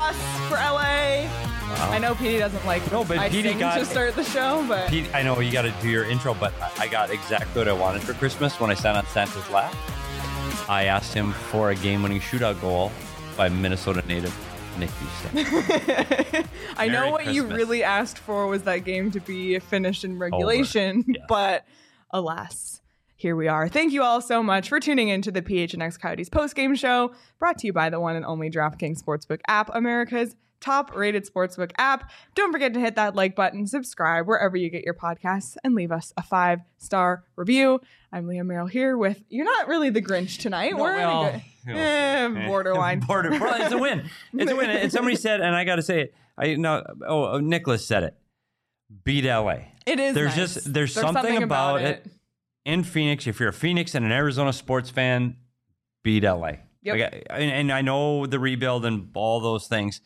loss for LA. Wow. I know Petey doesn't like I Petey sing got to start the show, but Pete, I know you got to do your intro, but I got exactly what I wanted for Christmas when I sat on Santa's lap. I asked him for a game-winning shootout goal by Minnesota native Nick Bjugstad. I know Merry what you Christmas. really asked for was that game to be finished in regulation, Yes. but alas, here we are. Thank you all so much for tuning in to the PHNX Coyotes post-game show, brought to you by the one and only DraftKings Sportsbook app, America's top-rated sportsbook app. Don't forget to hit that like button, subscribe wherever you get your podcasts, and leave us a 5-star review. I'm Leah Merrill here with, you're not really the Grinch tonight. No, We're well, in a good, borderline. It's a win. It's a win. And somebody said, and I got to say it. Nicholas said it. Beat LA. It is There's nice. there's something about it. In Phoenix, if you're a Phoenix and an Arizona sports fan, beat LA. Yep. Like, and I know the rebuild and all those things.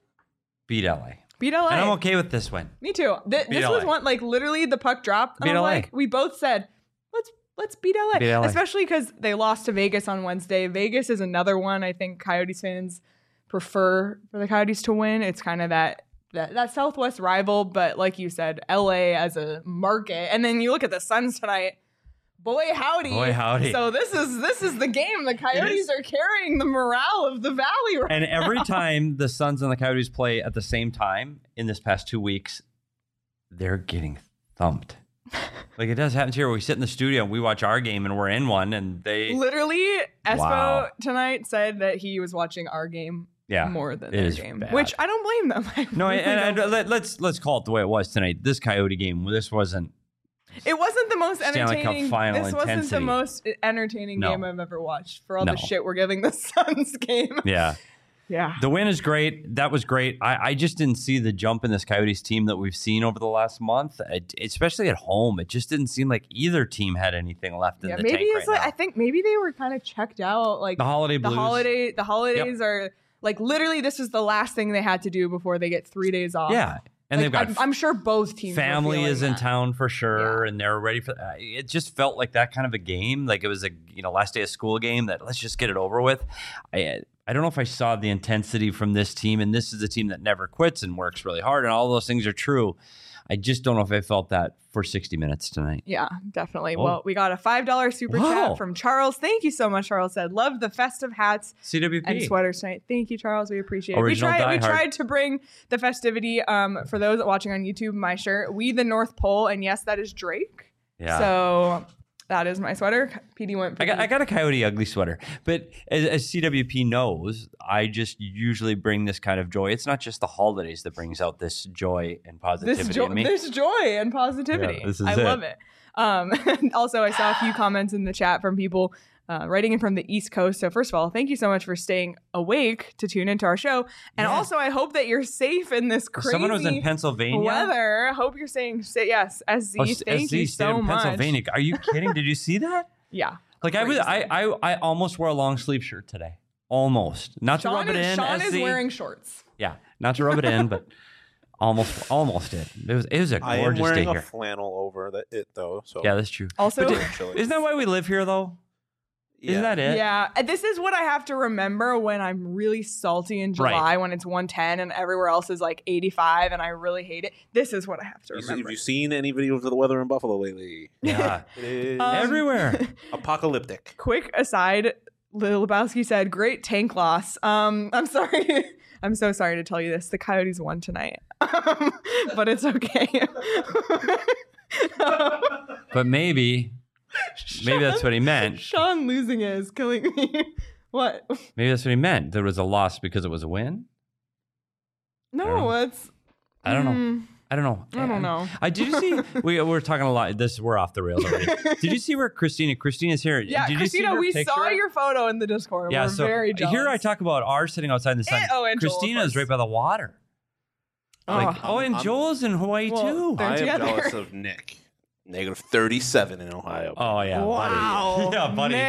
Beat LA. Beat LA. And I'm okay with this win. Me too. This was LA. one, like, literally the puck dropped. Beat And I'm LA. like, we both said, let's beat LA. Beat LA. Especially because they lost to Vegas on Wednesday. Vegas is another one I think Coyotes fans prefer for the Coyotes to win. It's kind of that Southwest rival, but like you said, LA as a market. And then you look at the Suns tonight. Boy howdy. Boy, howdy. So this is the game. The Coyotes are carrying the morale of the Valley right And now. every time the Suns and the Coyotes play at the same time in this past 2 weeks, they're getting thumped. Like it does happen here. We sit in the studio and we watch our game and we're in one and they Literally, Espo Wow. tonight said that he was watching our game more than it their is game, bad. which I don't blame them. I No, really don't. let's call it the way it was tonight. This Coyote game, this wasn't. It wasn't the most Stanley Cup entertaining. final This wasn't the intensity. most entertaining No. game I've ever watched for all No. the shit we're giving the Suns game. Yeah. Yeah. The win is great. That was great. I just didn't see the jump in this Coyotes team that we've seen over the last month, especially at home. It just didn't seem like either team had anything left in the maybe tank it's right like now. I think maybe they were kind of checked out. Like The holiday the blues. the holidays are like literally this is the last thing they had to do before they get 3 days off. Yeah. And Like, they've got I'm sure both teams. were family feeling is in that. town for sure, and they're ready for. It just felt like that kind of a game, like it was a last day of school game. That let's just get it over with. I don't know if I saw the intensity from this team, and this is a team that never quits and works really hard, and all those things are true. I just don't know if I felt that for 60 minutes tonight. Yeah, definitely. Whoa. Well, we got a $5 super Wow. chat from Charles. Thank you so much, Charles said. Love the festive hats CWP. and sweaters tonight. Thank you, Charles. We appreciate it. Original We diehard. tried to bring the festivity for those watching on YouTube, my shirt, We the North Pole, and yes, that is Drake. Yeah. So that is my sweater. PD went for I got a Coyote Ugly sweater, but as CWP knows, I just usually bring this kind of joy. It's not just the holidays that brings out this joy and positivity in me. this joy and positivity. Yeah, this is I it. love it. Also, I saw a few comments in the chat from people writing in from the East Coast. So first of all, thank you so much for staying awake to tune into our show. And Yeah. also, I hope that you're safe in this crazy Someone was in Pennsylvania. weather. Hope you're staying safe. Yes, SZ, thank you SZ stayed so in much. Pennsylvania. Are you kidding? Did you see that? Yeah. Like Crazy. I almost wore a long sleeve shirt today. Almost. Not to rub it in. Sean is SZ. wearing shorts. Yeah, not to rub it in, but almost did. It was a I am gorgeous day wearing a here. flannel over it though. So Yeah, that's true. Also, But It's chilly. isn't that why we live here though? Isn't that it? yeah, this is what I have to remember when I'm really salty in July Right. when it's 110 and everywhere else is like 85 and I really hate it. This is what I have to Have remember. you seen any videos of the weather in Buffalo lately? Yeah. It is Everywhere. apocalyptic. Quick aside, Lil Lebowski said, "Great tank loss." I'm sorry. I'm so sorry to tell you this. The Coyotes won tonight, but it's okay. But maybe that's what he meant. Sean losing it is killing me. What? Maybe that's what he meant. There was a loss because it was a win. No, it's. I don't know. I don't know. I don't know. Did you see? We're talking a lot. We're off the rails already. Did you see where Christina's here? Yeah, Did you see Christina, her we picture? saw your photo in the Discord. Yeah, We're so very jealous. here I talk about ours sitting outside in the sun. And Joel, of Christina's course. right by the water. Like, and I'm- Joel's in Hawaii Well, too. they're I am together. jealous of Nick. -37 in Ohio. Oh yeah, Wow. buddy. Yeah, buddy. Nick.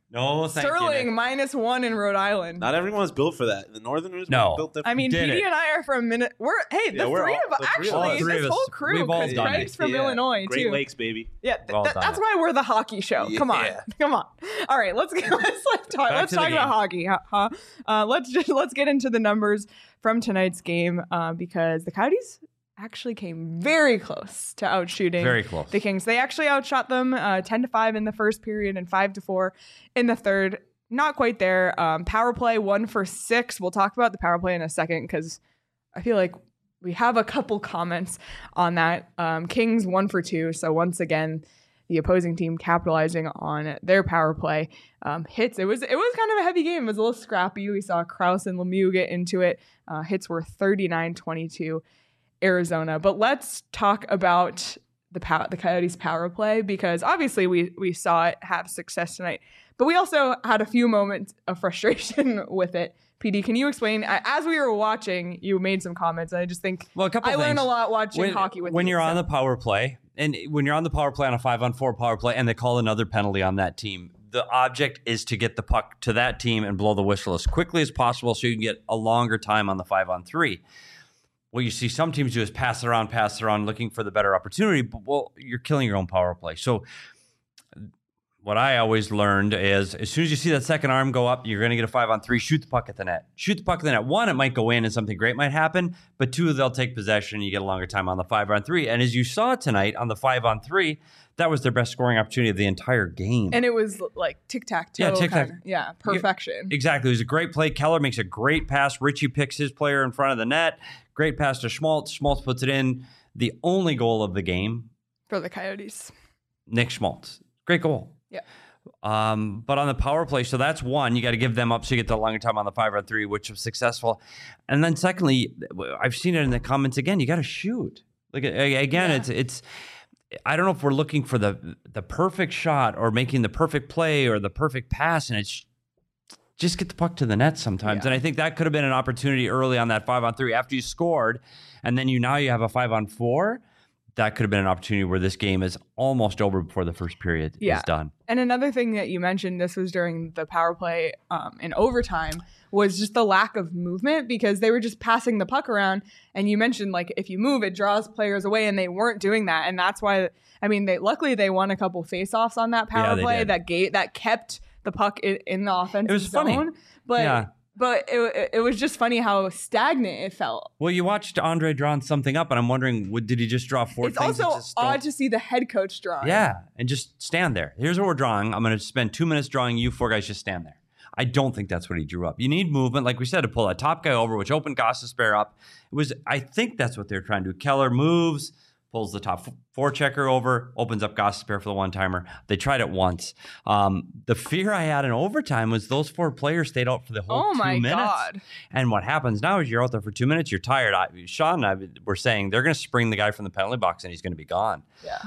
No, thank you, Sterling Nick. -1 in Rhode Island. Not everyone's built for that. The Northerners No. were built different. I mean, Did PD it. and I are from the we're three all- of us. the three of Actually, us. Three this of whole us. crew. We've all Because done Craig's it. from Illinois Great too. Lakes, baby. Yeah, We've all done that's it. why we're the hockey show. Come on, Yeah. come on. All right, let's talk. Let's to the talk about hockey. Let's get into the numbers from tonight's game because the Coyotes actually came very close to outshooting Very close. the Kings. They actually outshot them 10-5 in the first period and 5-4 in the third. Not quite there. Power play 1 for 6. We'll talk about the power play in a second because I feel like we have a couple comments on that. Kings 1 for 2. So once again, the opposing team capitalizing on their power play hits. It was kind of a heavy game. It was a little scrappy. We saw Krause and Lemieux get into it. Hits were 39-22 Arizona. But let's talk about the Coyotes power play because obviously we saw it have success tonight. But we also had a few moments of frustration with it. PD, can you explain? As we were watching, you made some comments. And I just think Well, a couple I learned things. a lot watching hockey with when you. you're on so. the power play, and when you're on the power play on a 5-on-4 power play, and they call another penalty on that team, the object is to get the puck to that team and blow the whistle as quickly as possible, so you can get a longer time on the 5-on-3. What you see some teams do is pass it around, looking for the better opportunity. But well, you're killing your own power play. So what I always learned is as soon as you see that second arm go up, you're going to get a 5-on-3, shoot the puck at the net. Shoot the puck at the net. 1, it might go in and something great might happen. But 2, they'll take possession. You get a longer time on the 5-on-3. And as you saw tonight on the 5-on-3, that was their best scoring opportunity of the entire game. And it was like tic-tac-toe. Yeah, tic-tac. Kind of, yeah, perfection. Exactly. It was a great play. Keller makes a great pass. Richie picks his player in front of the net. Great pass to Schmaltz. Schmaltz puts it in. The only goal of the game, For the Coyotes. Nick Schmaltz. Great goal. Yeah. But on the power play, so that's 1. You got to give them up so you get the longer time on the 5-on-3, which was successful. And then secondly, I've seen it in the comments again. You got to shoot. Like again, Yeah. it's. I don't know if we're looking for the perfect shot or making the perfect play or the perfect pass, and it's just get the puck to the net sometimes. Yeah. And I think that could have been an opportunity early on that 5-on-3 after you scored, and then now you have a 5-on-4. That could have been an opportunity where this game is almost over before the first period is done. And another thing that you mentioned, this was during the power play in overtime, was just the lack of movement because they were just passing the puck around. And you mentioned, like, if you move, it draws players away, and they weren't doing that. And that's why, I mean, luckily they won a couple faceoffs on that power they play did. that kept the puck in the offensive It was zone. funny. But Yeah. But it was just funny how stagnant it felt. Well, you watched Andre drawing something up, and I'm wondering, did he just draw 4 It's things? that also just don't- odd to see the head coach drawing. Yeah, and just stand there. Here's what we're drawing. I'm going to spend 2 minutes drawing you 4 guys. Just stand there. I don't think that's what he drew up. You need movement, like we said, to pull that top guy over, which opened Gostisbehere up. I think that's what they're trying to do. Keller moves, pulls the top forechecker over, opens up Gostisbehere for the one-timer. They tried it once. The fear I had in overtime was those 4 players stayed out for the whole 2 minutes. God. And what happens now is you're out there for 2 minutes, you're tired. Sean and I were saying they're going to spring the guy from the penalty box and he's going to be gone. Yeah.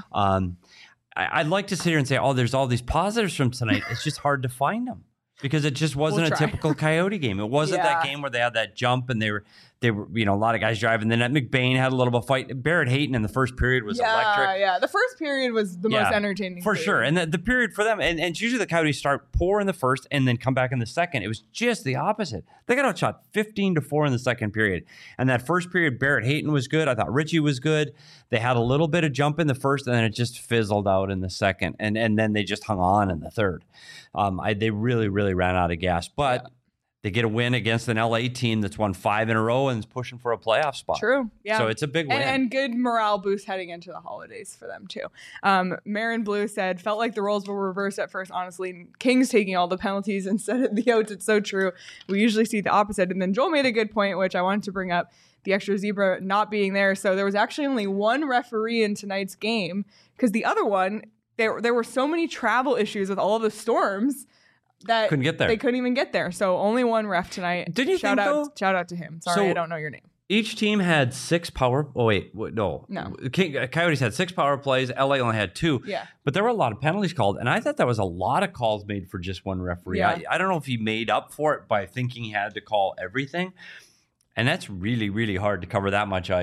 I'd like to sit here and say, oh, there's all these positives from tonight. It's just hard to find them because it just wasn't We'll a try. typical Coyote game. It wasn't that Yeah. game where they had that jump and they were, a lot of guys driving. Then McBain had a little bit of fight. Barrett Hayton in the first period was electric. Yeah. The first period was the most Yeah, entertaining. For period. sure. And the period for them, and it's usually the Coyotes start poor in the first and then come back in the second. It was just the opposite. They got outshot 15-4 in the second period. And that first period, Barrett Hayton was good. I thought Richie was good. They had a little bit of jump in the first, and then it just fizzled out in the second. And then they just hung on in the third. They really, really ran out of gas. But they get a win against an LA team that's won 5 in a row and is pushing for a playoff spot. True. Yeah. So it's a big win. And good morale boost heading into the holidays for them too. Marin Blue said, felt like the roles were reversed at first, honestly. Kings taking all the penalties instead of the outs. It's so true. We usually see the opposite. And then Joel made a good point, which I wanted to bring up, the extra zebra not being there. So there was actually only one referee in tonight's game because the other one, there were so many travel issues with all of the storms that Couldn't get there. They couldn't even get there. So only one ref tonight. Didn't you shout think, out, though? Shout out to him. Sorry, So- I don't know your name. Each team had 6 power. Oh wait, no. Coyotes had 6 power plays. LA only had 2. Yeah. But there were a lot of penalties called, and I thought that was a lot of calls made for just one referee. Yeah. I don't know if he made up for it by thinking he had to call everything, and that's really, really hard to cover that much ice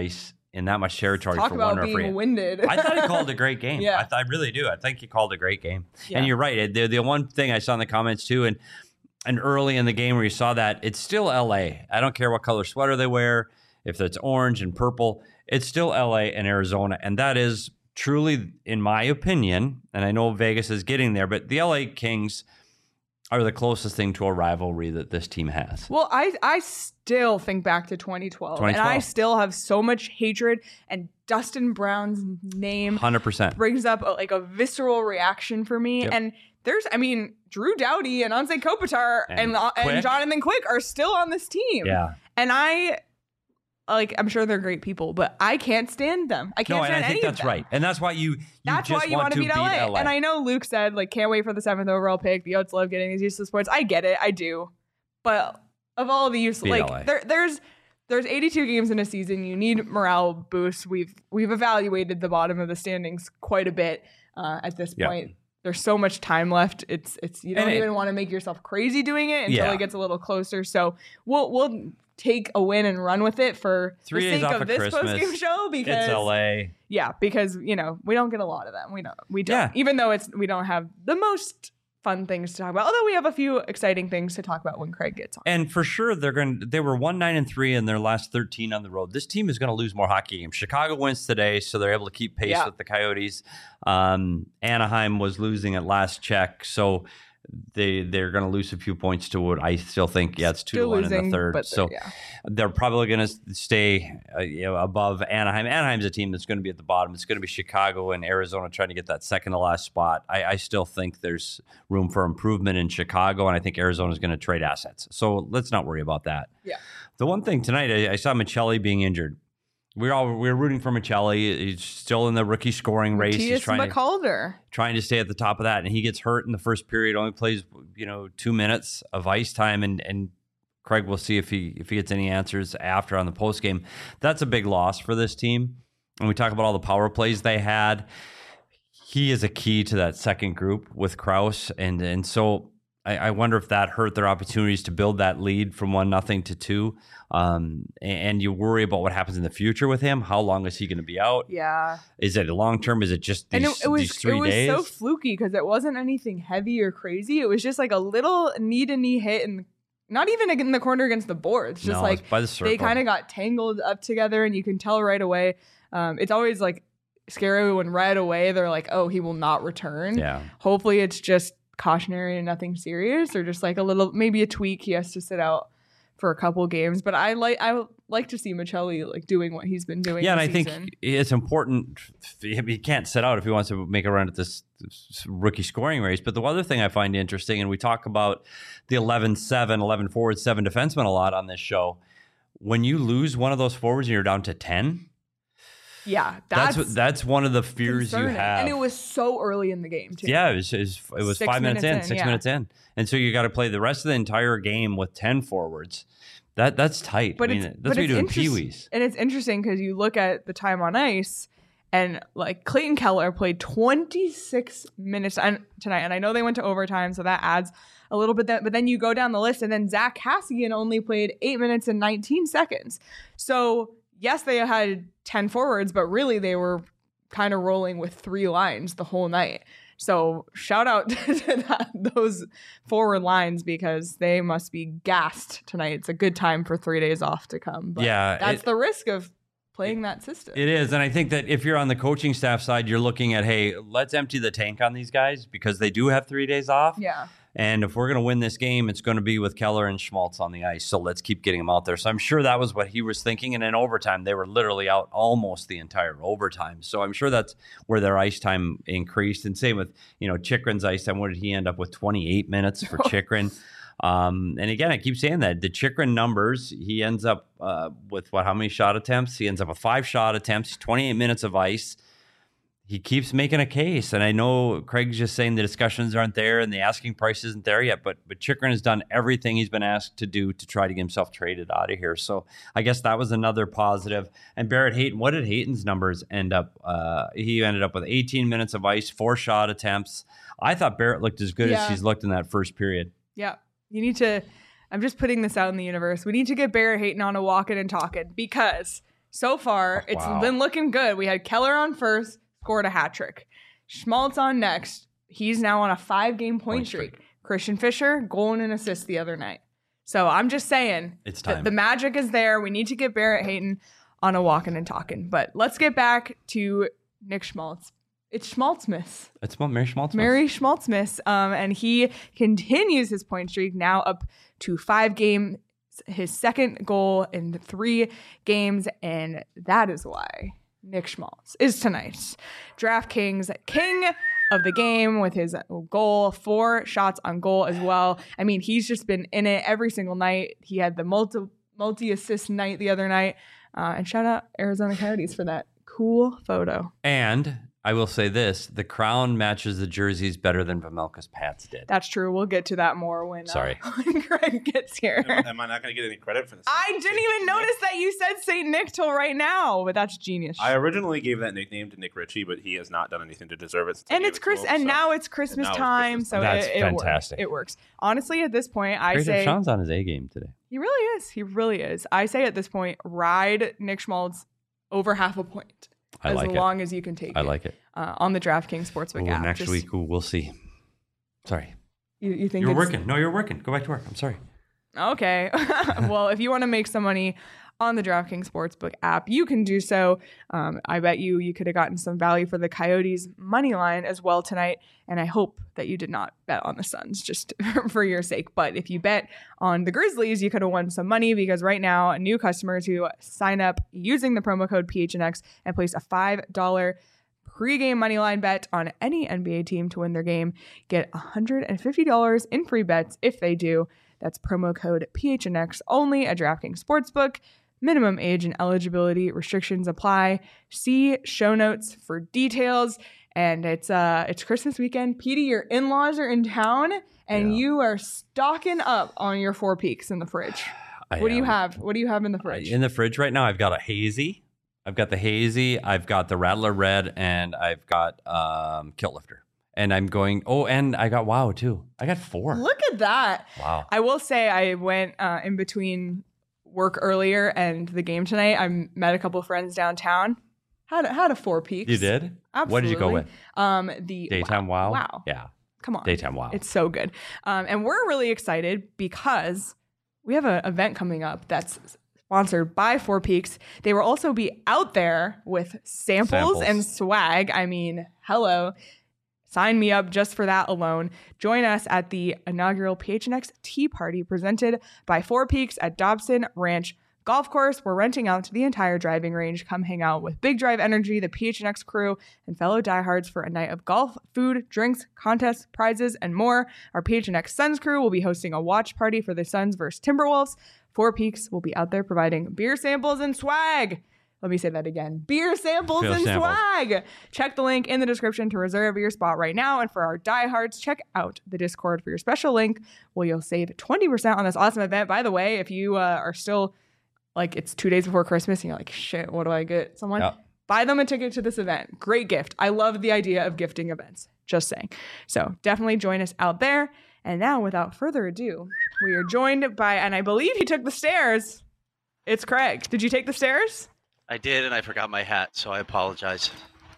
in that much territory Talk for about one referee. being winded. I thought he called a great game. Yeah. I really do. I think he called a great game. Yeah. And you're right. The one thing I saw in the comments too, and early in the game where you saw that, it's still LA. I don't care what color sweater they wear, if it's orange and purple, it's still LA and Arizona. And that is truly, in my opinion, and I know Vegas is getting there, but the LA Kings are the closest thing to a rivalry that this team has. Well, I still think back to 2012, and I still have so much hatred, and Dustin Brown's name 100% brings up a visceral reaction for me. Yep. And Drew Doughty and Anze Kopitar and Jonathan Quick are still on this team. Yeah. And I'm sure they're great people, but I can't stand them. I can't stand any of them. I think that's right. And that's why you want to beat LA. And I know Luke said, can't wait for the 7th overall pick. The Oats love getting these useless points. I get it. I do. But of all the useless, there's 82 games in a season. You need morale boosts. We've evaluated the bottom of the standings quite a bit at this point. There's so much time left. It's you don't even want to make yourself crazy doing it until it gets a little closer. So we'll take a win and run with it for 3 the days sake off of this Christmas. post-game show because it's LA. Yeah, because we don't get a lot of them. We don't. Yeah. Even though we don't have the most fun things to talk about. Although we have a few exciting things to talk about when Craig gets on. And for sure they were 1-9-3 in their last 13 on the road. This team is going to lose more hockey games. Chicago wins today, so they're able to keep pace with the Coyotes. Anaheim was losing at last check, so they're going to lose a few points to what I still think. Yeah, it's 2-1 in the third. So they're probably going to stay above Anaheim. Anaheim's a team that's going to be at the bottom. It's going to be Chicago and Arizona trying to get that second to last spot. I still think there's room for improvement in Chicago, and I think Arizona's going to trade assets. So let's not worry about that. Yeah. The one thing tonight, I saw Michelli being injured. We were rooting for Michelli. He's still in the rookie scoring race. He's trying to stay at the top of that, and he gets hurt in the first period. Only plays 2 minutes of ice time, and Craig will see if he gets any answers after on the post game. That's a big loss for this team. And we talk about all the power plays they had. He is a key to that second group with Krause, and so I wonder if that hurt their opportunities to build that lead from 1-0 to 2. And you worry about what happens in the future with him. How long is he going to be out? Yeah. Is it long term? Is it just these 3 days? It was so fluky because it wasn't anything heavy or crazy. It was just a little knee-to-knee hit, and not even in the corner against the boards. Just by the circle. They kind of got tangled up together, and you can tell right away. It's always scary when right away they're oh, he will not return. Yeah. Hopefully it's just cautionary and nothing serious, or just a little, maybe a tweak. He has to sit out for a couple games, but I like to see Michelli doing what he's been doing. Yeah, and I season. think it's important. He can't sit out if he wants to make a run at this rookie scoring race. But the other thing I find interesting, and we talk about the 11-7, 11 forwards, 7 defensemen a lot on this show. When you lose one of those forwards and you're down to 10. Yeah, that's one of the fears concerning. You have. And it was so early in the game, too. Yeah, it was 5 minutes in, 6 minutes in. And so you got to play the rest of the entire game with 10 forwards. That's tight. But that's what you do in Pee-wees. And it's interesting because you look at the time on ice, and Clayton Keller played 26 minutes tonight. And I know they went to overtime, so that adds a little bit. But then you go down the list, and then Zach Kassian only played 8 minutes and 19 seconds. So yes, they had 10 forwards, but really they were kind of rolling with 3 lines the whole night. So shout out to those forward lines because they must be gassed tonight. It's a good time for 3 days off to come. But that's the risk of playing that system. It is. And I think that if you're on the coaching staff side, you're looking at, hey, let's empty the tank on these guys because they do have 3 days off. Yeah. And if we're going to win this game, it's going to be with Keller and Schmaltz on the ice. So let's keep getting them out there. So I'm sure that was what he was thinking. And in overtime, they were literally out almost the entire overtime. So I'm sure that's where their ice time increased. And same with, Chychrun's ice time. What did he end up with? 28 minutes for Chychrun. And again, I keep saying that the Chychrun numbers, he ends up with how many shot attempts? He ends up with 5 shot attempts, 28 minutes of ice. He keeps making a case, and I know Craig's just saying the discussions aren't there and the asking price isn't there yet, but Chychrun has done everything he's been asked to do to try to get himself traded out of here. So I guess that was another positive. And Barrett Hayton, what did Hayton's numbers end up? He ended up with 18 minutes of ice, 4 shot attempts. I thought Barrett looked as good as he's looked in that first period. Yeah. You need to, I'm just putting this out in the universe. We need to get Barrett Hayton on a walking and talking because So far, it's been looking good. We had Keller on first, scored a hat trick. Schmaltz on next. He's now on a 5-game point streak. Christian Fisher, goal and an assist the other night. So I'm just saying, it's time. The magic is there. We need to get Barrett Hayton on a walking and talking. But let's get back to Nick Schmaltz. It's Schmaltzmas. It's Mary Schmaltzmas. Mary Schmaltzmas. And he continues his point streak, now up to 5 games, his second goal in 3 games. And that is why Nick Schmaltz is tonight's DraftKings king of the game with his goal, 4 shots on goal as well. I mean, he's just been in it every single night. He had the multi-assist night the other night. And shout out Arizona Coyotes for that cool photo. And I will say this, the crown matches the jerseys better than Vejmelka's Pats did. That's true. We'll get to that more when Greg gets here. Am I not going to get any credit for this? I didn't even notice that you said St. Nick till right now, but that's genius. I originally gave that nickname to Nick Ritchie, but he has not done anything to deserve it. And it's now it's Christmas time, so that's it fantastic. Works. It works. Honestly, at this point, I Great say Sean's on his A game today. He really is. He really is. I say at this point, ride Nick Schmaltz over half a point. As long as you can take it. I like it. On the DraftKings Sportsbook app. Next week, we'll see. Sorry. You think you're working? No, you're working. Go back to work. I'm sorry. Okay. Well, if you want to make some money on the DraftKings Sportsbook app, you can do so. I bet you could have gotten some value for the Coyotes money line as well tonight. And I hope that you did not bet on the Suns just for your sake. But if you bet on the Grizzlies, you could have won some money because right now, new customers who sign up using the promo code PHNX and place a $5 pregame moneyline bet on any NBA team to win their game get $150 in free bets if they do. That's promo code PHNX only at DraftKings Sportsbook. Minimum age and eligibility restrictions apply. See show notes for details. And it's Christmas weekend. Petey, your in-laws are in town, and you are stocking up on your Four Peaks in the fridge. What do you have? What do you have in the fridge? In the fridge right now, I've got a hazy. I've got the hazy. I've got the Rattler Red, and I've got Kilt Lifter. And I'm going. Oh, and I got Wow too. I got 4. Look at that! Wow. I will say I went in between work earlier and the game tonight. I met a couple friends downtown. Had a Four Peaks. You did? Absolutely. What did you go with? The Daytime Wow. Wow. Yeah. Come on. Daytime Wow. It's so good. And we're really excited because we have an event coming up that's sponsored by Four Peaks. They will also be out there with samples and swag. I mean, hello. Sign me up just for that alone. Join us at the inaugural PHNX Tea Party presented by Four Peaks at Dobson Ranch Golf Course. We're renting out the entire driving range. Come hang out with Big Drive Energy, the PHNX crew, and fellow diehards for a night of golf, food, drinks, contests, prizes, and more. Our PHNX Suns crew will be hosting a watch party for the Suns versus Timberwolves. Four Peaks will be out there providing beer samples and swag. Let me say that again. Beer samples and swag. Check the link in the description to reserve your spot right now. And for our diehards, check out the Discord for your special link where you'll save 20% on this awesome event. By the way, if you are still like it's 2 days before Christmas and you're like, shit, what do I get someone? Yep. Buy them a ticket to this event. Great gift. I love the idea of gifting events. Just saying. So definitely join us out there. And now, without further ado, we are joined by, and I believe he took the stairs. It's Craig. Did you take the stairs? I did, and I forgot my hat, so I apologize.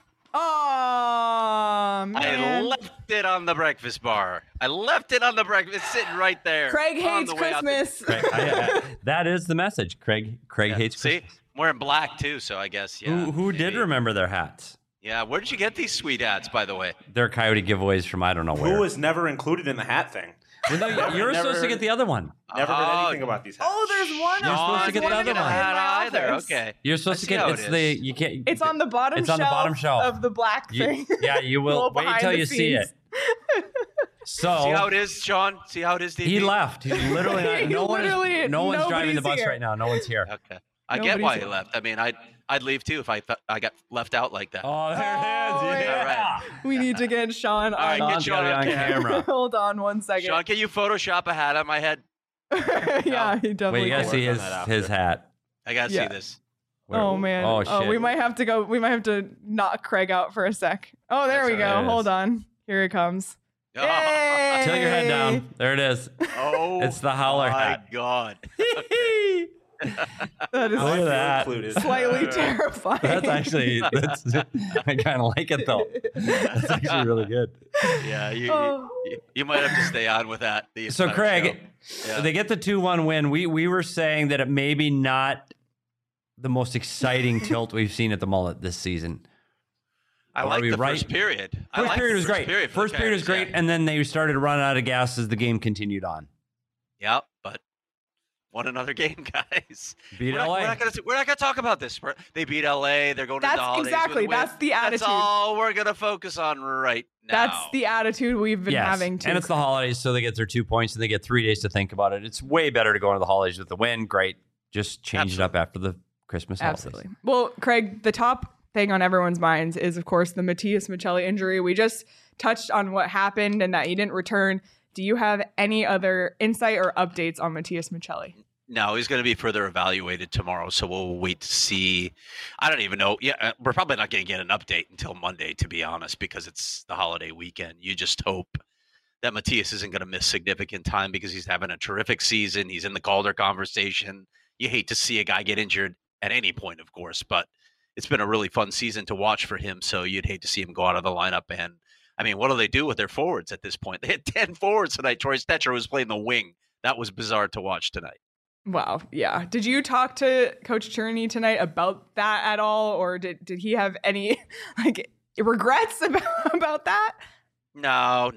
Oh, man. I left it on the breakfast bar. It's sitting right there. Craig hates Christmas. That is the message. Craig hates Christmas. See? I'm wearing black, too, so I guess, yeah. Who did remember their hats? Yeah, where did you get these sweet hats, by the way? They're Coyote giveaways from I don't know where. Who was never included in the hat thing? Well, you were supposed to get the other one. Never heard anything about these hats. Oh, there's one. You're supposed to get the other one. Either. Okay. You're supposed to get you can't. It's on the bottom. It's on the bottom shelf of the black thing. You will wait till you see it. So see how it is, Sean. See how it is. DP? He left. He's literally no one's driving the bus right now. No one's here. Okay. I get why he left. I mean, I'd leave too if I got left out like that. Oh, there it is. Yeah. Right. We need to get Sean on. All right, get Sean on camera. Hold on 1 second. Sean, can you Photoshop a hat on my head? Yeah, he definitely. Wait, you gotta see his hat. I gotta see this. Oh man. Oh shit. We might have to go. We might have to knock Craig out for a sec. Oh, there we go. Hold on. Here it comes. Hey! Tilt your head down. There it is. Oh, it's the howler hat. My God. That is Look at that. Included. slightly terrifying. That's actually, I kind of like it though. That's actually really good. Yeah, Oh. you might have to stay on with that. the So entire Craig, show. Yeah. they get the 2-1 win. We were saying that it maybe not the most exciting tilt we've seen at the Mullet this season. I Are like we the right? first period. I First liked period the was great. for the First period was Coyotes, great, and then they started to run out of gas as the game continued on. Yeah, but won another game, guys. Beat We're LA. not gonna talk about this. They beat LA. They're going to the That's holidays exactly. with a win. That's the attitude. That's all we're gonna focus on right now. That's the attitude we've been Yes, having too. and it's the holidays, so they get their 2 points, and they get 3 days to think about it. It's way better to go into the holidays with the win. Great. Just change it up after the Christmas holidays. Absolutely. Well, Craig, the top thing on everyone's minds is, of course, the Matias Michelli injury. We just touched on what happened and that he didn't return. Do you have any other insight or updates on Matias Michelli? No, he's going to be further evaluated tomorrow, so we'll wait to see. I don't even know. Yeah, we're probably not going to get an update until Monday, to be honest, because it's the holiday weekend. You just hope that Matias isn't going to miss significant time because he's having a terrific season. He's in the Calder conversation. You hate to see a guy get injured at any point, of course, but it's been a really fun season to watch for him, so you'd hate to see him go out of the lineup. And, I mean, what do they do with their forwards at this point? They had 10 forwards tonight. Troy Stetcher was playing the wing. That was bizarre to watch tonight. Wow. Yeah. Did you talk to Coach Cherney tonight about that at all? Or did he have any regrets about that? No.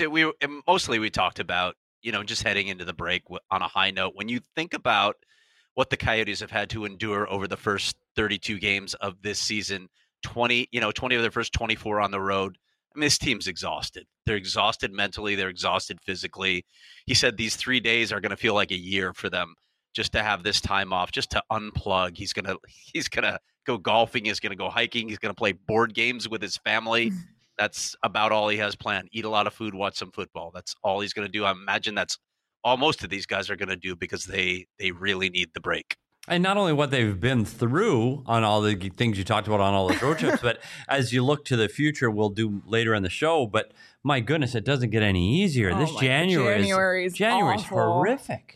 Mostly we talked about, just heading into the break on a high note. When you think about what the Coyotes have had to endure over the first 32 games of this season, 20 of their first 24 on the road. I mean, this team's exhausted. They're exhausted mentally. They're exhausted physically. He said these 3 days are going to feel like a year for them, just to have this time off, just to unplug. He's gonna go golfing. He's gonna go hiking. He's gonna play board games with his family. That's about all he has planned. Eat a lot of food, watch some football. That's all he's gonna do. I imagine that's all most of these guys are gonna do because they really need the break. And not only what they've been through on all the things you talked about on all those road trips, but as you look to the future, we'll do later in the show. But my goodness, it doesn't get any easier. This January is awful. horrific.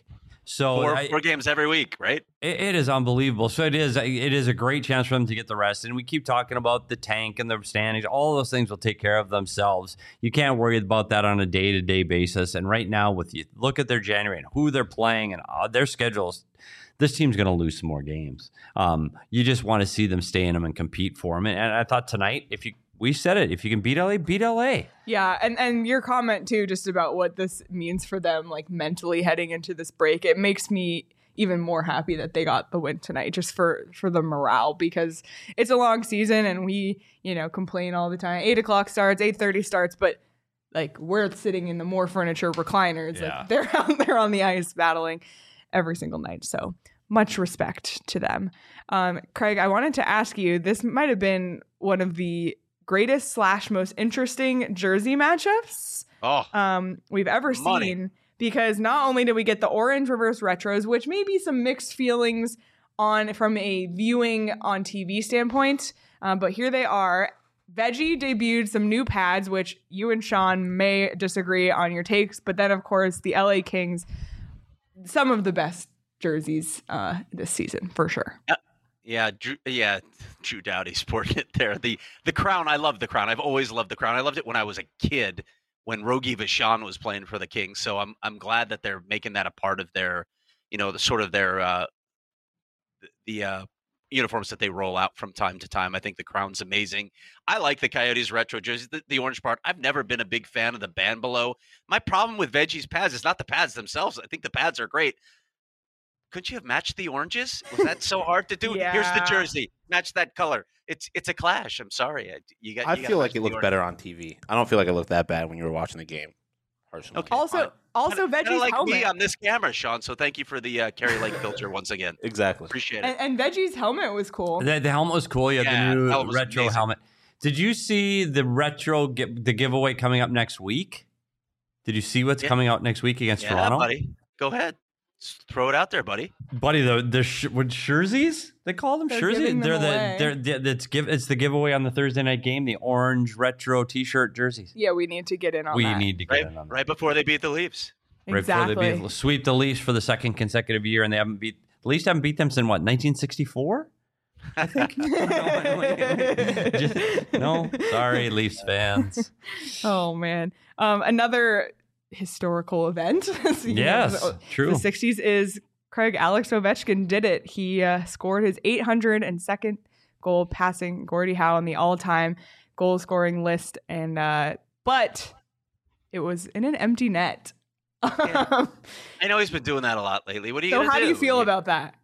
So 4 games every week, right? It is unbelievable. So it is a great chance for them to get the rest. And we keep talking about the tank and the standings. All those things will take care of themselves. You can't worry about that on a day-to-day basis. And right now, with you look at their January and who they're playing and their schedules, this team's going to lose some more games. You just want to see them stay in them and compete for them. And I thought tonight, we said it, if you can beat LA, beat LA. Yeah, and your comment too, just about what this means for them, like mentally heading into this break, it makes me even more happy that they got the win tonight, just for the morale, because it's a long season and we, complain all the time. 8:00 starts, 8:30 starts, but like we're sitting in the more furniture recliners, Yeah. like they're out there on the ice battling every single night. So much respect to them. Craig, I wanted to ask you, this might have been one of the greatest / most interesting jersey matchups we've ever seen, because not only did we get the orange reverse retros, which may be some mixed feelings from a viewing on TV standpoint, but here they are. Veggie debuted some new pads, which you and Sean may disagree on your takes, but then of course the LA Kings, some of the best jerseys this season for sure. Yeah, Drew Doughty sporting it there. The crown, I love the crown. I've always loved the crown. I loved it when I was a kid, when Rogi Vachon was playing for the Kings. So I'm glad that they're making that a part of their, the sort of their the uniforms that they roll out from time to time. I think the crown's amazing. I like the Coyotes retro jerseys, the orange part. I've never been a big fan of the band below. My problem with Veggie's pads is not the pads themselves. I think the pads are great. Couldn't you have matched the oranges? Was that so hard to do? Yeah. Here's the jersey. Match that color. It's a clash. I'm sorry. I feel like it looked better on TV. I don't feel like it looked that bad when you were watching the game. Personally. Okay. Also Veggie's like helmet. me on this camera, Sean. So thank you for the Kerry Lake filter once again. Exactly. Appreciate it. And Veggie's helmet was cool. The helmet was cool. You have Yeah, the new helmet was retro amazing. helmet. Did you see the retro the giveaway coming up next week? Did you see what's coming out next week against Yeah, Toronto? buddy. Go ahead. Just throw it out there, buddy. Buddy, what jerseys? They call them They're jerseys. giving them It's the giveaway on the Thursday night game. The orange retro T-shirt jerseys. Yeah, we need to get in on We that. need to get in on that. Right before they beat the Leafs. Right Exactly. before they sweep the Leafs for the second consecutive year, and they haven't beat The Leafs haven't beat them since what, 1964? I think. No, sorry, Leafs fans. Oh man, another historical event. Yes, true. The 60s is Craig. Alex Ovechkin did it. He scored his 802nd goal, passing Gordie Howe on the all-time goal scoring list, and but it was in an empty net. Yeah. I know he's been doing that a lot lately. What are you going to do? So how do you feel about that?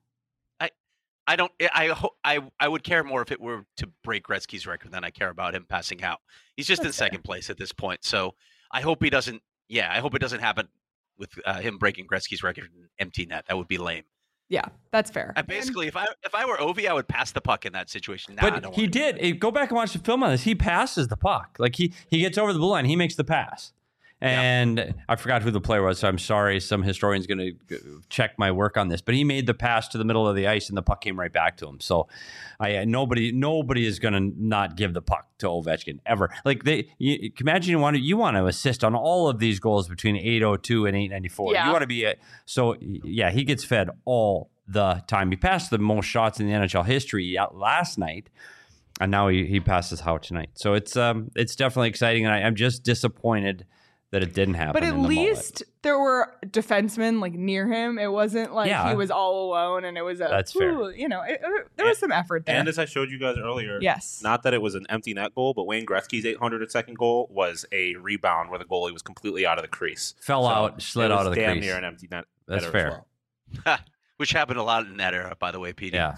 I would care more if it were to break Gretzky's record than I care about him passing out. He's just in second place at this point. So I hope he doesn't. Yeah, I hope it doesn't happen with him breaking Gretzky's record in empty net. That would be lame. Yeah, that's fair. Basically, if I were Ovi, I would pass the puck in that situation. But he did. Go back and watch the film on this. He passes the puck. Like he gets over the blue line. He makes the pass. And I forgot who the player was, so I'm sorry. Some historian's going to check my work on this. But he made the pass to the middle of the ice, and the puck came right back to him. So nobody is going to not give the puck to Ovechkin ever. Like imagine you want to assist on all of these goals between 802 and 894. Yeah. You want to be he gets fed all the time. He passed the most shots in the NHL history last night. And now he passes Howe tonight. So it's definitely exciting, and I'm just disappointed that it didn't happen. But at least there were defensemen like near him. It wasn't like he was all alone, and it was that's fair. You know, there was some effort there. And as I showed you guys earlier, yes, not that it was an empty net goal, but Wayne Gretzky's 802nd goal was a rebound where the goalie was completely out of the crease, slid out of the crease. Damn near an empty net. That's fair. Well. Which happened a lot in that era, by the way, Petey. Yeah.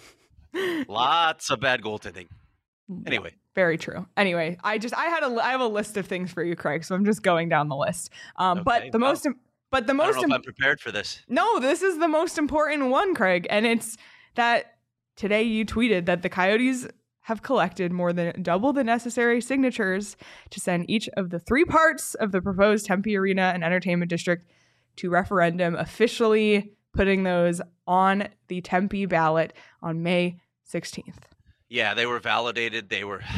Lots of bad goaltending. Anyway. Very true. Anyway, I have a list of things for you, Craig. So I'm just going down the list. Okay, but the most I don't know if I'm prepared for this. No, this is the most important one, Craig, and it's that today you tweeted that the Coyotes have collected more than double the necessary signatures to send each of the 3 parts of the proposed Tempe Arena and Entertainment District to referendum, officially putting those on the Tempe ballot on May 16th. Yeah, they were validated.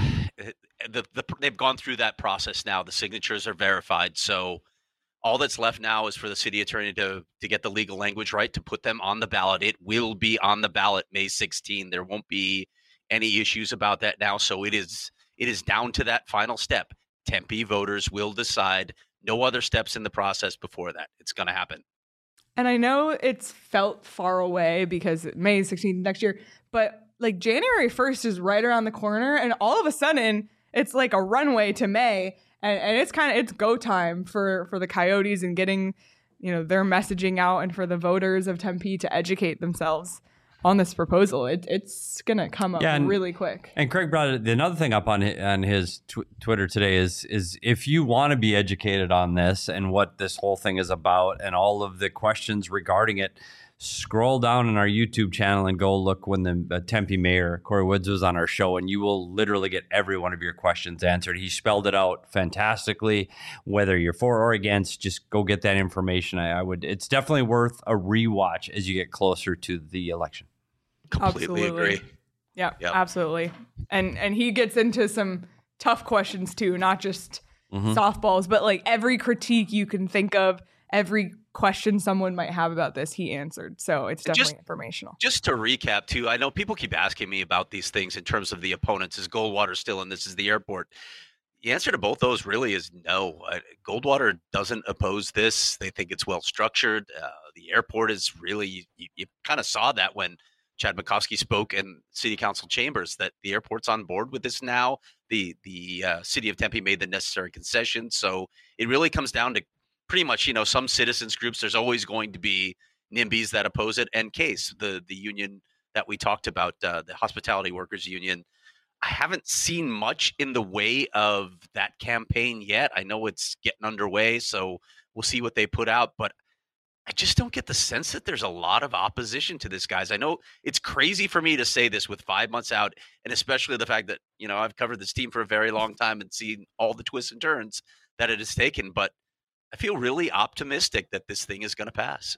They've gone through that process now. The signatures are verified. So all that's left now is for the city attorney to get the legal language right, to put them on the ballot. It will be on the ballot May 16. There won't be any issues about that now. So it is down to that final step. Tempe voters will decide. No other steps in the process before that. It's going to happen. And I know it's felt far away because May 16th next year, but like January 1st is right around the corner, and all of a sudden it's like a runway to May, and it's go time for the Coyotes and getting, their messaging out, and for the voters of Tempe to educate themselves on this proposal. It's gonna come up really quick. And Craig brought another thing up on his Twitter today is if you want to be educated on this and what this whole thing is about and all of the questions regarding it, scroll down on our YouTube channel and go look when the Tempe mayor, Corey Woods, was on our show, and you will literally get every one of your questions answered. He spelled it out fantastically. Whether you're for or against, just go get that information. It's definitely worth a rewatch as you get closer to the election. Completely agree. Yeah, yep. Absolutely. And he gets into some tough questions too, not just softballs, but like every critique you can think of, every question someone might have about this, he answered. So it's definitely informational. Just to recap too, I know people keep asking me about these things in terms of the opponents. Is Goldwater still in? This is the airport. The answer to both those really is no. Goldwater doesn't oppose this. They think it's well structured. The airport is really, you kind of saw that when Chad Bukowski spoke in city council chambers, that the airport's on board with this now. The city of Tempe made the necessary concessions. So it really comes down to pretty much, some citizens groups. There's always going to be NIMBYs that oppose it, and CASE, the union that we talked about, the Hospitality Workers Union. I haven't seen much in the way of that campaign yet. I know it's getting underway, so we'll see what they put out, but I just don't get the sense that there's a lot of opposition to this, guys. I know it's crazy for me to say this with 5 months out, and especially the fact that, I've covered this team for a very long time and seen all the twists and turns that it has taken, but I feel really optimistic that this thing is going to pass.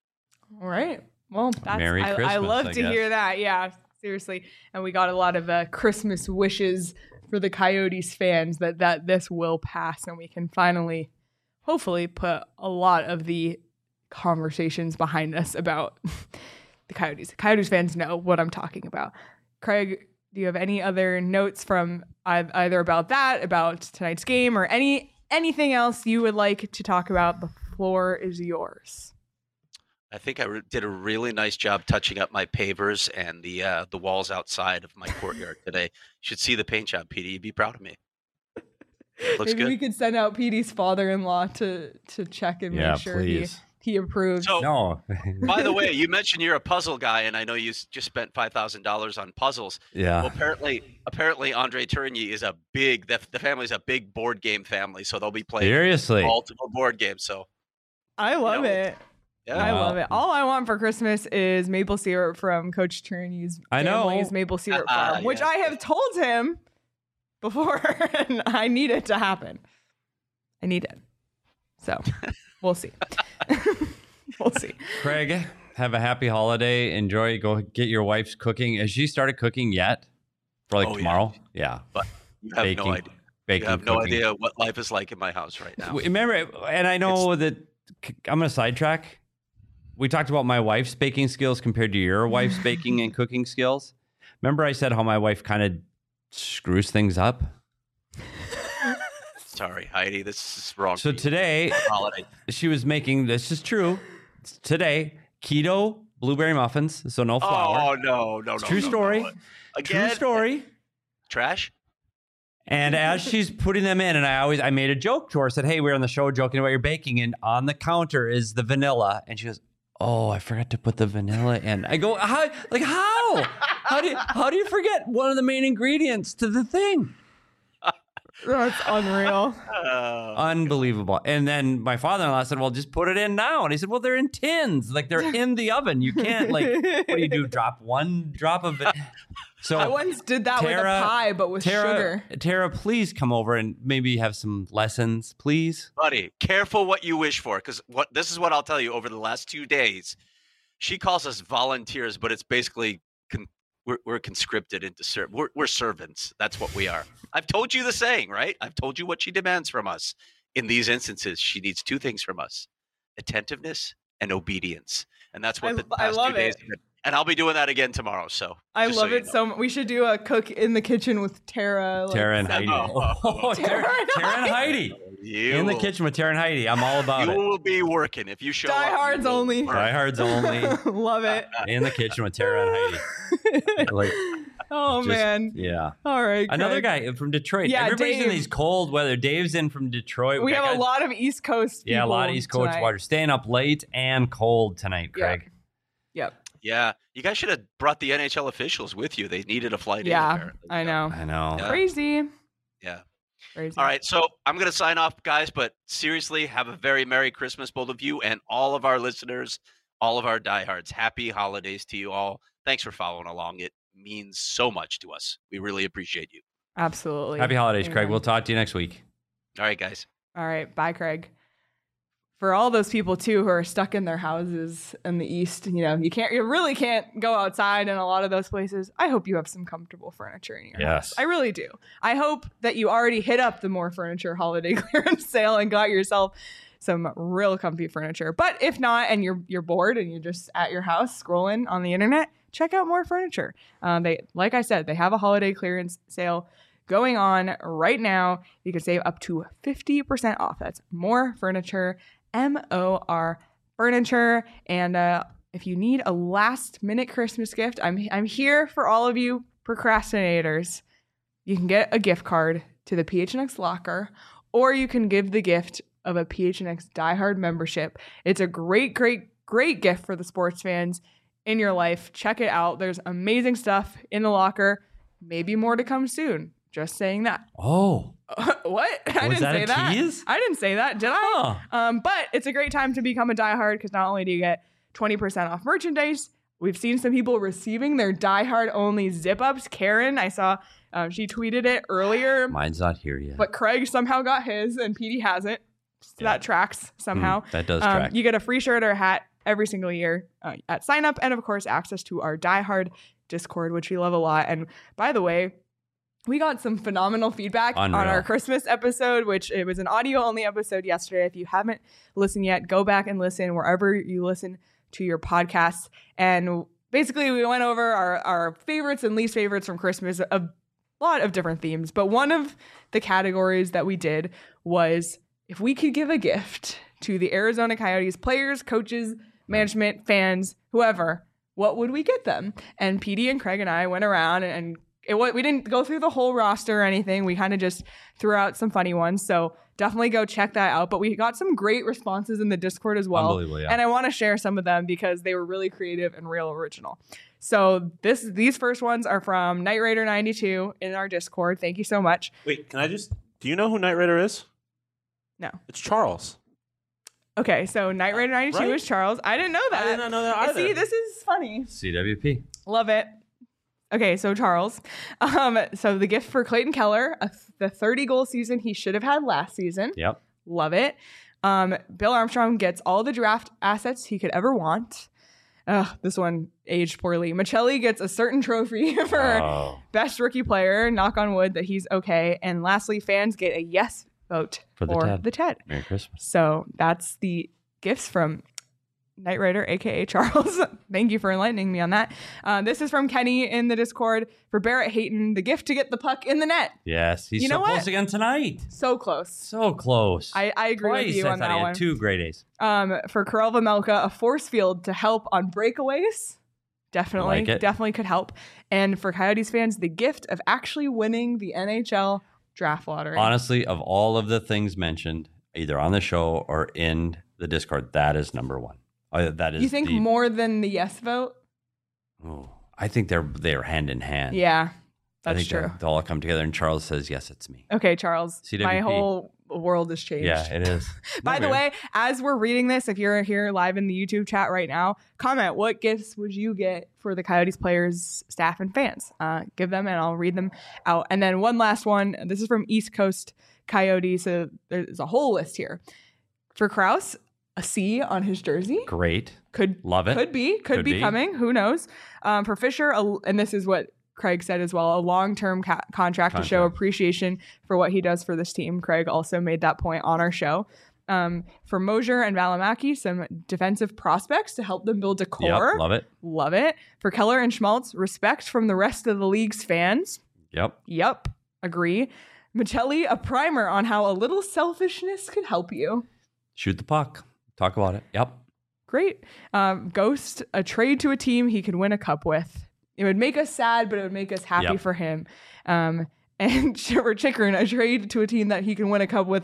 All right. Well, Merry Christmas, I love to hear that. Yeah, seriously. And we got a lot of Christmas wishes for the Coyotes fans that this will pass, and we can finally, hopefully, put a lot of the conversations behind us about the Coyotes. Coyotes fans know what I'm talking about. Craig, do you have any other notes from either about that, about tonight's game, or anything else you would like to talk about? The floor is yours. I think I did a really nice job touching up my pavers and the walls outside of my courtyard today. You should see the paint job, Petey. You'd be proud of me. Looks Maybe good. we could send out Petey's father-in-law to check and make sure he approves. So, No. by the way, you mentioned you're a puzzle guy, and I know you just spent $5,000 on puzzles. Yeah. Well, apparently, Andre Tourigny is the family's a big board game family, so they'll be playing Seriously. multiple board games. So I love it. yeah, I Wow. love it. All I want for Christmas is maple syrup from Coach Tourigny's I know. family's maple syrup farm, which Yes. I have told him before, and I need it to happen. I need it. So we'll see. We'll see. Craig, have a happy holiday. Enjoy. Go get your wife's cooking. Has she started cooking yet? For like Oh, yeah. tomorrow? Yeah. you have no idea. Baking, You have no cooking. idea what life is like in my house right now. Remember, and I know that I'm going to sidetrack. We talked about my wife's baking skills compared to your wife's baking and cooking skills. Remember I said how my wife kind of screws things up? Sorry, Heidi, this is wrong. So for you. today, Holiday. she was making, this is true, today, keto blueberry muffins, so no flour. Oh no! True no, story. no. True Again, story. trash. And as she's putting them in, and I made a joke to her, said, "Hey, we're on the show joking about your baking, and on the counter is the vanilla." And she goes, "Oh, I forgot to put the vanilla in." I go, "How? Like how? How do you forget one of the main ingredients to the thing?" That's unreal. Unbelievable. And then my father-in-law said, "Well, just put it in now." And he said, "Well, they're in tins, like they're in the oven. You can't what do you do? Drop one drop of it." So I once did that with a pie, but with sugar. Tara, please come over and maybe have some lessons, please. Buddy, careful what you wish for, because this is what I'll tell you. Over the last 2 days, she calls us volunteers, but it's basically we're conscripted into we're servants. That's what we are. I've told you the saying, right? I've told you what she demands from us. In these instances, she needs 2 things from us: attentiveness and obedience. And that's what the past 2 days have been. And I'll be doing that again tomorrow. So I love it so much. We should do a cook in the kitchen with Tara. Tara and Heidi. Tara and Heidi. In the kitchen with Tara and Heidi. I'm all about it. You will be working if you show up. Diehards only. Diehards only. Love it. In the kitchen with Tara and Heidi. Man. Yeah. All right. Another Craig. guy from Detroit. Yeah, Everybody's in Dave. these cold weather. Dave's in from Detroit. We have a lot of East Coast people. Yeah, a lot of East Coast tonight. water. Staying up late and cold tonight, Craig. Yep. Yeah, you guys should have brought the NHL officials with you. They needed a flight in, Yeah, apparently. I know. I know. Yeah. Crazy. Yeah. Crazy. All right, so I'm going to sign off, guys, but seriously, have a very Merry Christmas, both of you, and all of our listeners, all of our diehards. Happy holidays to you all. Thanks for following along. It means so much to us. We really appreciate you. Absolutely. Happy holidays, Craig. Amen. We'll talk to you next week. All right, guys. All right. Bye, Craig. For all those people too who are stuck in their houses in the East, you really can't go outside in a lot of those places. I hope you have some comfortable furniture in your house. I really do. I hope that you already hit up the More Furniture holiday clearance sale and got yourself some real comfy furniture. But if not, and you're bored and you're just at your house scrolling on the internet, check out More Furniture. Like I said, they have a holiday clearance sale going on right now. You can save up to 50% off. That's More Furniture. MOR Furniture. And if you need a last minute Christmas gift, I'm here for all of you procrastinators. You can get a gift card to the PHNX locker, or you can give the gift of a PHNX diehard membership. It's a great, great, great gift for the sports fans in your life. Check it out. There's amazing stuff in the locker. Maybe more to come soon. Just saying that. Oh. What? I didn't that say a that. tease? I didn't say that, did I? But it's a great time to become a diehard because not only do you get 20% off merchandise, we've seen some people receiving their diehard only zip ups. Karen, I saw she tweeted it earlier. Mine's not here yet. But Craig somehow got his and Petey hasn't. So that tracks somehow. That does track. You get a free shirt or a hat every single year at sign up. And of course, access to our diehard Discord, which we love a lot. And by the way, we got some phenomenal feedback on our Christmas episode, which it was an audio-only episode yesterday. If you haven't listened yet, go back and listen wherever you listen to your podcasts. And basically we went over our favorites and least favorites from Christmas, a lot of different themes. But one of the categories that we did was if we could give a gift to the Arizona Coyotes players, coaches, management, fans, whoever, what would we get them? And PD and Craig and I went around and we didn't go through the whole roster or anything. We kind of just threw out some funny ones. So definitely go check that out. But we got some great responses in the Discord as well. Unbelievable, yeah. And I want to share some of them because they were really creative and real original. So these first ones are from Knight Raider 92 in our Discord. Thank you so much. Wait, do you know who Knight Raider is? No. It's Charles. Okay, so Knight Raider 92 Right? is Charles. I didn't know that. I did not know that either. See, this is funny. CWP. Love it. Okay, so Charles. So the gift for Clayton Keller, the 30-goal season he should have had last season. Yep. Love it. Bill Armstrong gets all the draft assets he could ever want. This one aged poorly. Michelli gets a certain trophy for best rookie player. Knock on wood that he's okay. And lastly, fans get a yes vote For the TED. Merry Christmas. So that's the gifts from Knight Raider, aka Charles. Thank you for enlightening me on that. This is from Kenny in the Discord for Barrett Hayton, the gift to get the puck in the net. Yes, he's You know so what? close again tonight. So close. So close. I agree Twice, with you I on thought that he one. had 2 great A's. For Karel Vamelka, a force field to help on breakaways. Definitely, Like it. definitely could help. And for Coyotes fans, the gift of actually winning the NHL draft lottery. Honestly, of all of the things mentioned, either on the show or in the Discord, that is number one. That is. You think more than the yes vote? Oh, I think they're hand in hand. Yeah, I that's think true. they'll all come together, and Charles says, "Yes, it's me." Okay, Charles. CWP. My whole world has changed. Yeah, it is. By the No, way, as we're reading this, if you're here live in the YouTube chat right now, comment what gifts would you get for the Coyotes players, staff, and fans. Give them and I'll read them out. And then one last one. This is from East Coast Coyotes. So there's a whole list here. For Krause, a C on his jersey. great. Could Love it. Could be Could be. coming. Who knows? For Fisher, and this is what Craig said as well, a long-term contract to show appreciation for what he does for this team. Craig also made that point on our show. For Mosier and Valimaki, some defensive prospects to help them build a core. Yep, love it. Love it. For Keller and Schmaltz, respect from the rest of the league's fans. Yep. Agree. Michelli, a primer on how a little selfishness could help you. Shoot the puck. Talk about it. Yep. Great. Ghost, a trade to a team he could win a cup with. It would make us sad, but it would make us happy Yep. for him. And for Chikrin, a trade to a team that he can win a cup with, ...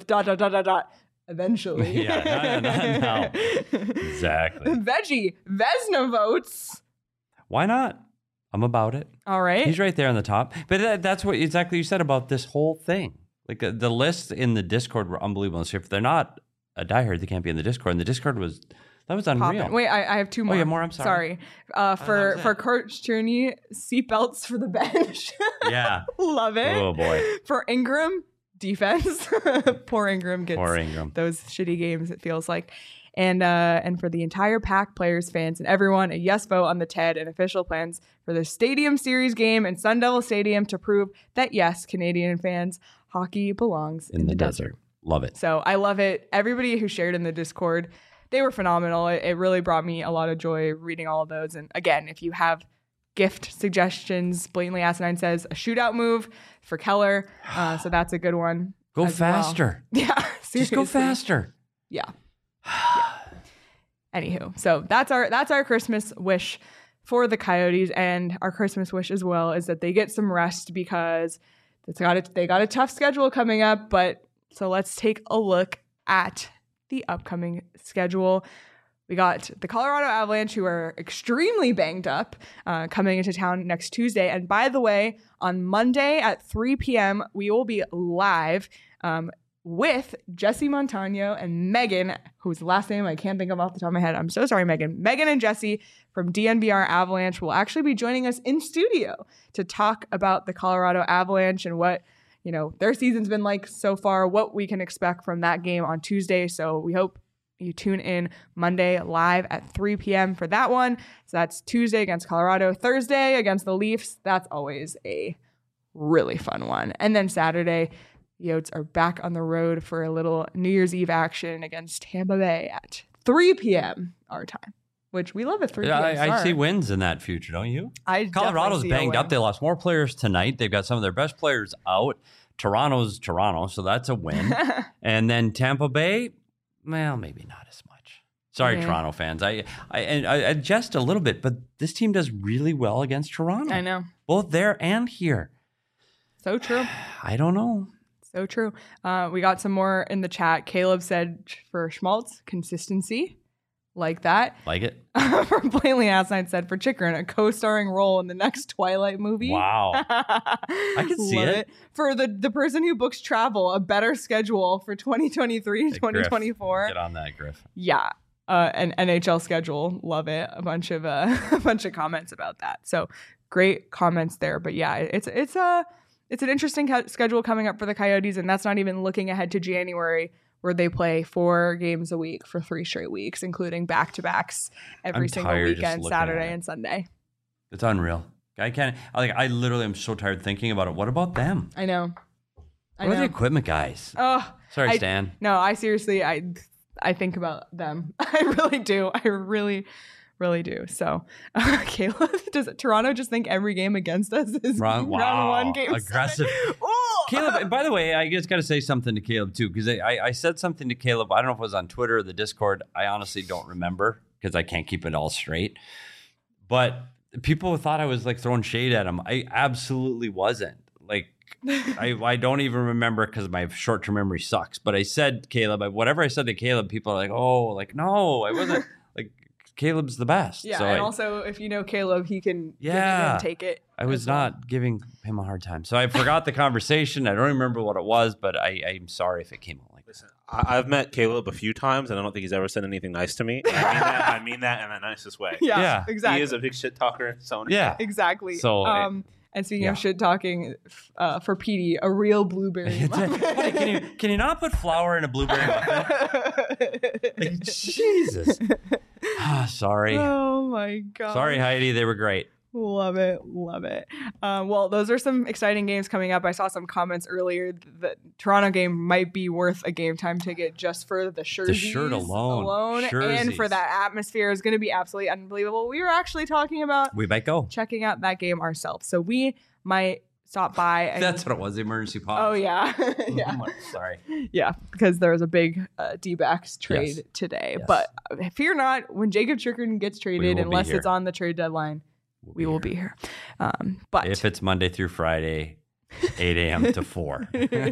eventually. Yeah, no. Exactly. Veggie, Vesna votes. Why not? I'm about it. All right. He's right there on the top. But that's what exactly you said about this whole thing. Like the lists in the Discord were unbelievable. So if they're not a diehard, they can't be in the Discord. And the Discord was unreal. Poppin'. Wait, I have two more. Oh, yeah, more. I'm sorry. For Coach Tierney, seatbelts for the bench. Yeah. Love it. Oh boy. For Ingram, defense. Poor Ingram gets those shitty games, it feels like. And for the entire pack, players, fans, and everyone, a yes vote on the TED and official plans for the Stadium Series game in Sun Devil Stadium to prove that, yes, Canadian fans, hockey belongs in the desert. Love it. So I love it. Everybody who shared in the Discord, they were phenomenal. It really brought me a lot of joy reading all of those. And again, if you have gift suggestions, Blatantly Asinine says a shootout move for Keller. So that's a good one. Go as faster. Well. Yeah. Seriously. Just go faster. Yeah. Anywho, so that's our Christmas wish for the Coyotes, and our Christmas wish as well is that they get some rest because they got a tough schedule coming up. But so let's take a look at the upcoming schedule. We got the Colorado Avalanche, who are extremely banged up, coming into town next Tuesday. And by the way, on Monday at 3 p.m., we will be live with Jesse Montano and Megan, whose last name I can't think of off the top of my head. I'm so sorry, Megan. Megan and Jesse from DNVR Avalanche will actually be joining us in studio to talk about the Colorado Avalanche and what, their season's been like so far, what we can expect from that game on Tuesday. So we hope you tune in Monday live at 3 p.m. for that one. So that's Tuesday against Colorado, Thursday against the Leafs. That's always a really fun one. And then Saturday, the Yotes are back on the road for a little New Year's Eve action against Tampa Bay at 3 p.m. our time. which we love a 3 Yeah, p.m. I see start. wins in that future, don't you? I Colorado's definitely see a banged up. win. They lost more players tonight. They've got some of their best players out. Toronto's Toronto, so that's a win. And then Tampa Bay, well, maybe not as much. Sorry, Yeah. Toronto fans. I adjust a little bit, but this team does really well against Toronto. I know. Both there and here. So true. I don't know. So true. We got some more in the chat. Caleb said for Schmaltz, consistency. Like that. Like it? From Plainly Asinine said for Chikrin, a co-starring role in the next Twilight movie. Wow. I can see Love it. For the person who books travel, a better schedule for 2023 Hey, 2024. Get on that, Griff. Yeah. An NHL schedule. Love it. A bunch of comments about that. So great comments there. But yeah, it's an interesting schedule coming up for the Coyotes, and that's not even looking ahead to January, where they play 4 games a week for 3 straight weeks, including back-to-backs every I'm single tired just weekend, looking at Saturday it. and Sunday. It's unreal. I literally am so tired thinking about it. What about them? I know. What are the equipment guys? Oh, Sorry, Stan. No, I seriously, I think about them. I really do. I really, really do. So, Caleb, does Toronto just think every game against us is round one, game aggressive. 7? Ooh! Caleb, and by the way, I just got to say something to Caleb too, because I said something to Caleb. I don't know if it was on Twitter or the Discord. I honestly don't remember because I can't keep it all straight. But people thought I was like throwing shade at him. I absolutely wasn't. Like, I don't even remember because my short-term memory sucks. But I said, Caleb, whatever I said to Caleb, people are like, oh, like, no, I wasn't. Like, Caleb's the best. Yeah, so and also, if you know Caleb, he can Yeah. take it. I was as well. not giving him a hard time. So I forgot the conversation. I don't remember what it was, but I'm sorry if it came out like that. Listen, I've met Caleb a few times, and I don't think he's ever said anything nice to me. And I mean that in the nicest way. Yeah, Yeah. exactly. He is a big shit talker. So Yeah. Exactly. So, and speaking yeah. of shit talking, for Petey, a real blueberry muffin. Hey, can you not put flour in a blueberry muffin? Like, Jesus. Sorry. Oh my god. Sorry, Heidi. They were great. Love it. Love it. Well, those are some exciting games coming up. I saw some comments earlier. The Toronto game might be worth a game time ticket just for the jerseys shirt alone. and Jerseys. for that atmosphere is going to be absolutely unbelievable. We were actually talking about We might go. checking out that game ourselves. So we might stop by. And, That's what it was. The emergency pause. oh, yeah. yeah. Sorry. Yeah, because there was a big D-backs trade Yes. today. Yes. But fear not, when Jacob Chikrin gets traded, will be unless here. it's on the trade deadline, we will be here. But If it's Monday through Friday, 8 a.m. to 4.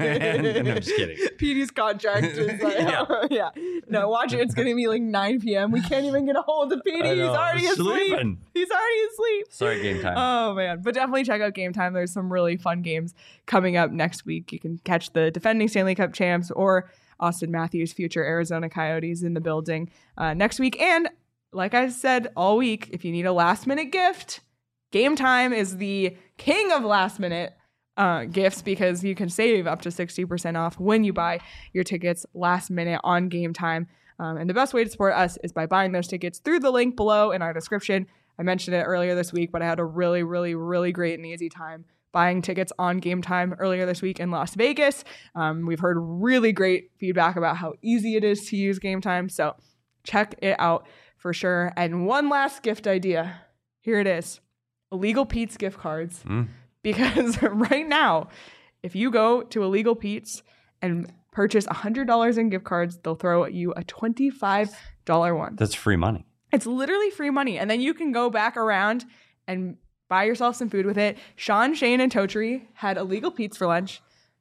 And I'm just kidding. Petey's contract is like, yeah. No, watch it. It's going to be like 9 p.m. We can't even get a hold of Petey. I He's know, already asleep. sleeping. He's already asleep. Sorry, game time. Oh, man. But definitely check out Game Time. There's some really fun games coming up next week. You can catch the defending Stanley Cup champs or Austin Matthews, future Arizona Coyotes, in the building next week. And like I said all week, if you need a last-minute gift, Game Time is the king of last-minute gifts because you can save up to 60% off when you buy your tickets last minute on Game Time. And the best way to support us is by buying those tickets through the link below in our description. I mentioned it earlier this week, but I had a really, really, really great and easy time buying tickets on Game Time earlier this week in Las Vegas. We've heard really great feedback about how easy it is to use Game Time. So check it out for sure. And one last gift idea. Here it is. Illegal Pete's gift cards. Because right now, if you go to Illegal Pete's and purchase $100 in gift cards, they'll throw you a $25 one. That's free money. It's literally free money. And then you can go back around and buy yourself some food with it. Sean, Shane, and Totri had Illegal Pete's for lunch.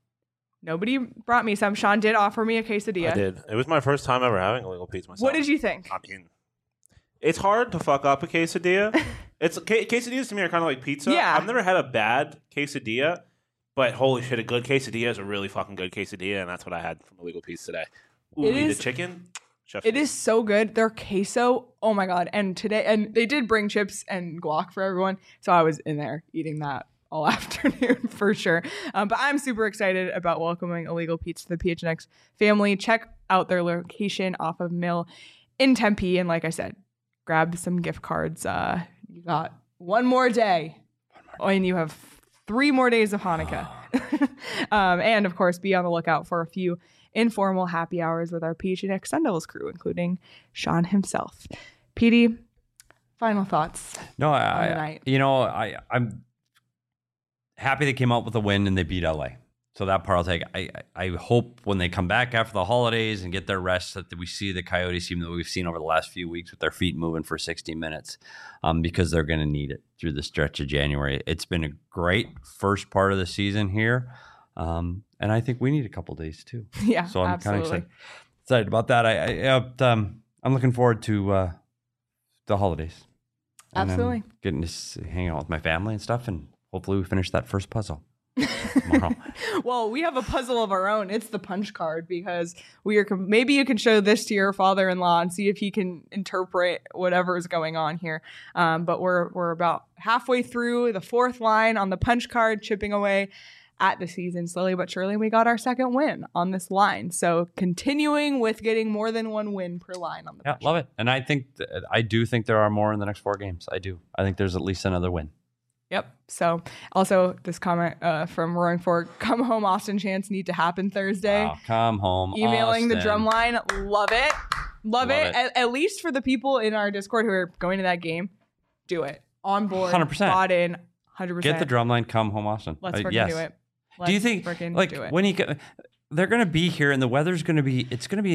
Nobody brought me some. Sean did offer me a quesadilla. I did. It was my first time ever having illegal pizza myself. What did you think? I mean, it's hard to fuck up a quesadilla. Quesadillas to me are kind of like pizza. Yeah. I've never had a bad quesadilla, but holy shit, a good quesadilla is a really fucking good quesadilla, and that's what I had from Illegal Pizza today. Ooh, It eat is- the chicken. Chef It is so good. Their queso, oh my god! And they did bring chips and guac for everyone, so I was in there eating that all afternoon for sure. But I'm super excited about welcoming Illegal Pete's to the PHNX family. Check out their location off of Mill in Tempe, and like I said, grab some gift cards. You got one more day, and you have 3 more days of Hanukkah. And of course, be on the lookout for a few informal happy hours with our PHNX Sun Devils crew, including Sean himself. Petey, Final thoughts. No, on the night. I'm happy they came out with a win and they beat LA. So that part I'll take. I hope when they come back after the holidays and get their rest that we see the Coyotes team that we've seen over the last few weeks with their feet moving for 60 minutes because they're going to need it through the stretch of January. It's been a great first part of the season here, and I think we need a couple days too. Yeah, so I'm absolutely. kind of excited about that. I'm looking forward to the holidays. And Absolutely. I'm getting to hang out with my family and stuff, and hopefully we finish that first puzzle tomorrow. Well, we have a puzzle of our own. It's the punch card because we are. Maybe you can show this to your father-in-law and see if he can interpret whatever is going on here. But we're about halfway through the fourth line on the punch card, chipping away at the season slowly but surely. We got our second win on this line, so continuing with getting more than one win per line on the. Yeah, love it. And I do think there are more in the next 4 games. I do. I think there's at least another win. Yep. So also this comment from Roaring Fork, come home Austin chants need to happen Thursday. Wow, come home, Emailing the Austin. drum line. Love it. Love it. it. At least for the people in our Discord who are going to that game, do it. On board. 100%. Bought in. 100%. Get the drum line, come home, Austin. Let's freaking yes. do it. Do you think like do it. when they're going to be here and the weather's going to be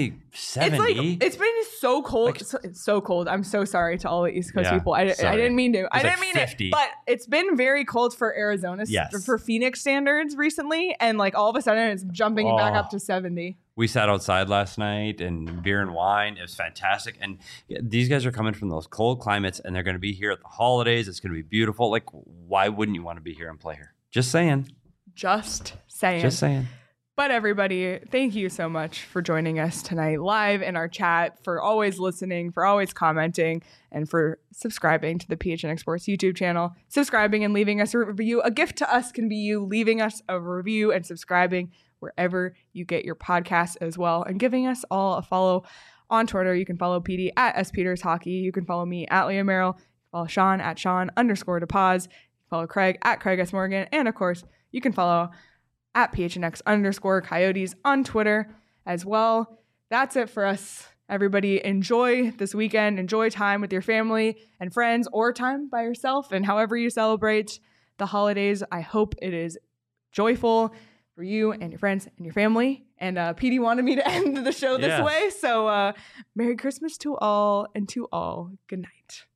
70? It's been so cold. Like- It's so cold. I'm so sorry to all the East Coast Yeah, people. I sorry. didn't mean to. I like didn't mean 50. it. But it's been very cold for Arizona, Yes. for Phoenix standards recently. And like all of a sudden it's jumping back up to 70. We sat outside last night and beer and wine. It was fantastic. And these guys are coming from those cold climates and they're going to be here at the holidays. It's going to be beautiful. Like, why wouldn't you want to be here and play here? Just saying. Just saying. Just saying. But everybody, thank you so much for joining us tonight live in our chat, for always listening, for always commenting, and for subscribing to the PHNX Sports YouTube channel. Subscribing and leaving us a review. A gift to us can be you leaving us a review and subscribing wherever you get your podcasts as well, and giving us all a follow on Twitter. You can follow PD at SPetersHockey. You can follow me at Leah Merrill. Follow Sean at Sean_DePaz. Follow Craig at Craig S. Morgan. And of course, you can follow at PHNX_Coyotes on Twitter as well. That's it for us. Everybody, enjoy this weekend. Enjoy time with your family and friends, or time by yourself, and however you celebrate the holidays. I hope it is joyful for you and your friends and your family. And PD wanted me to end the show this Yes. way. So Merry Christmas to all, and to all, good night.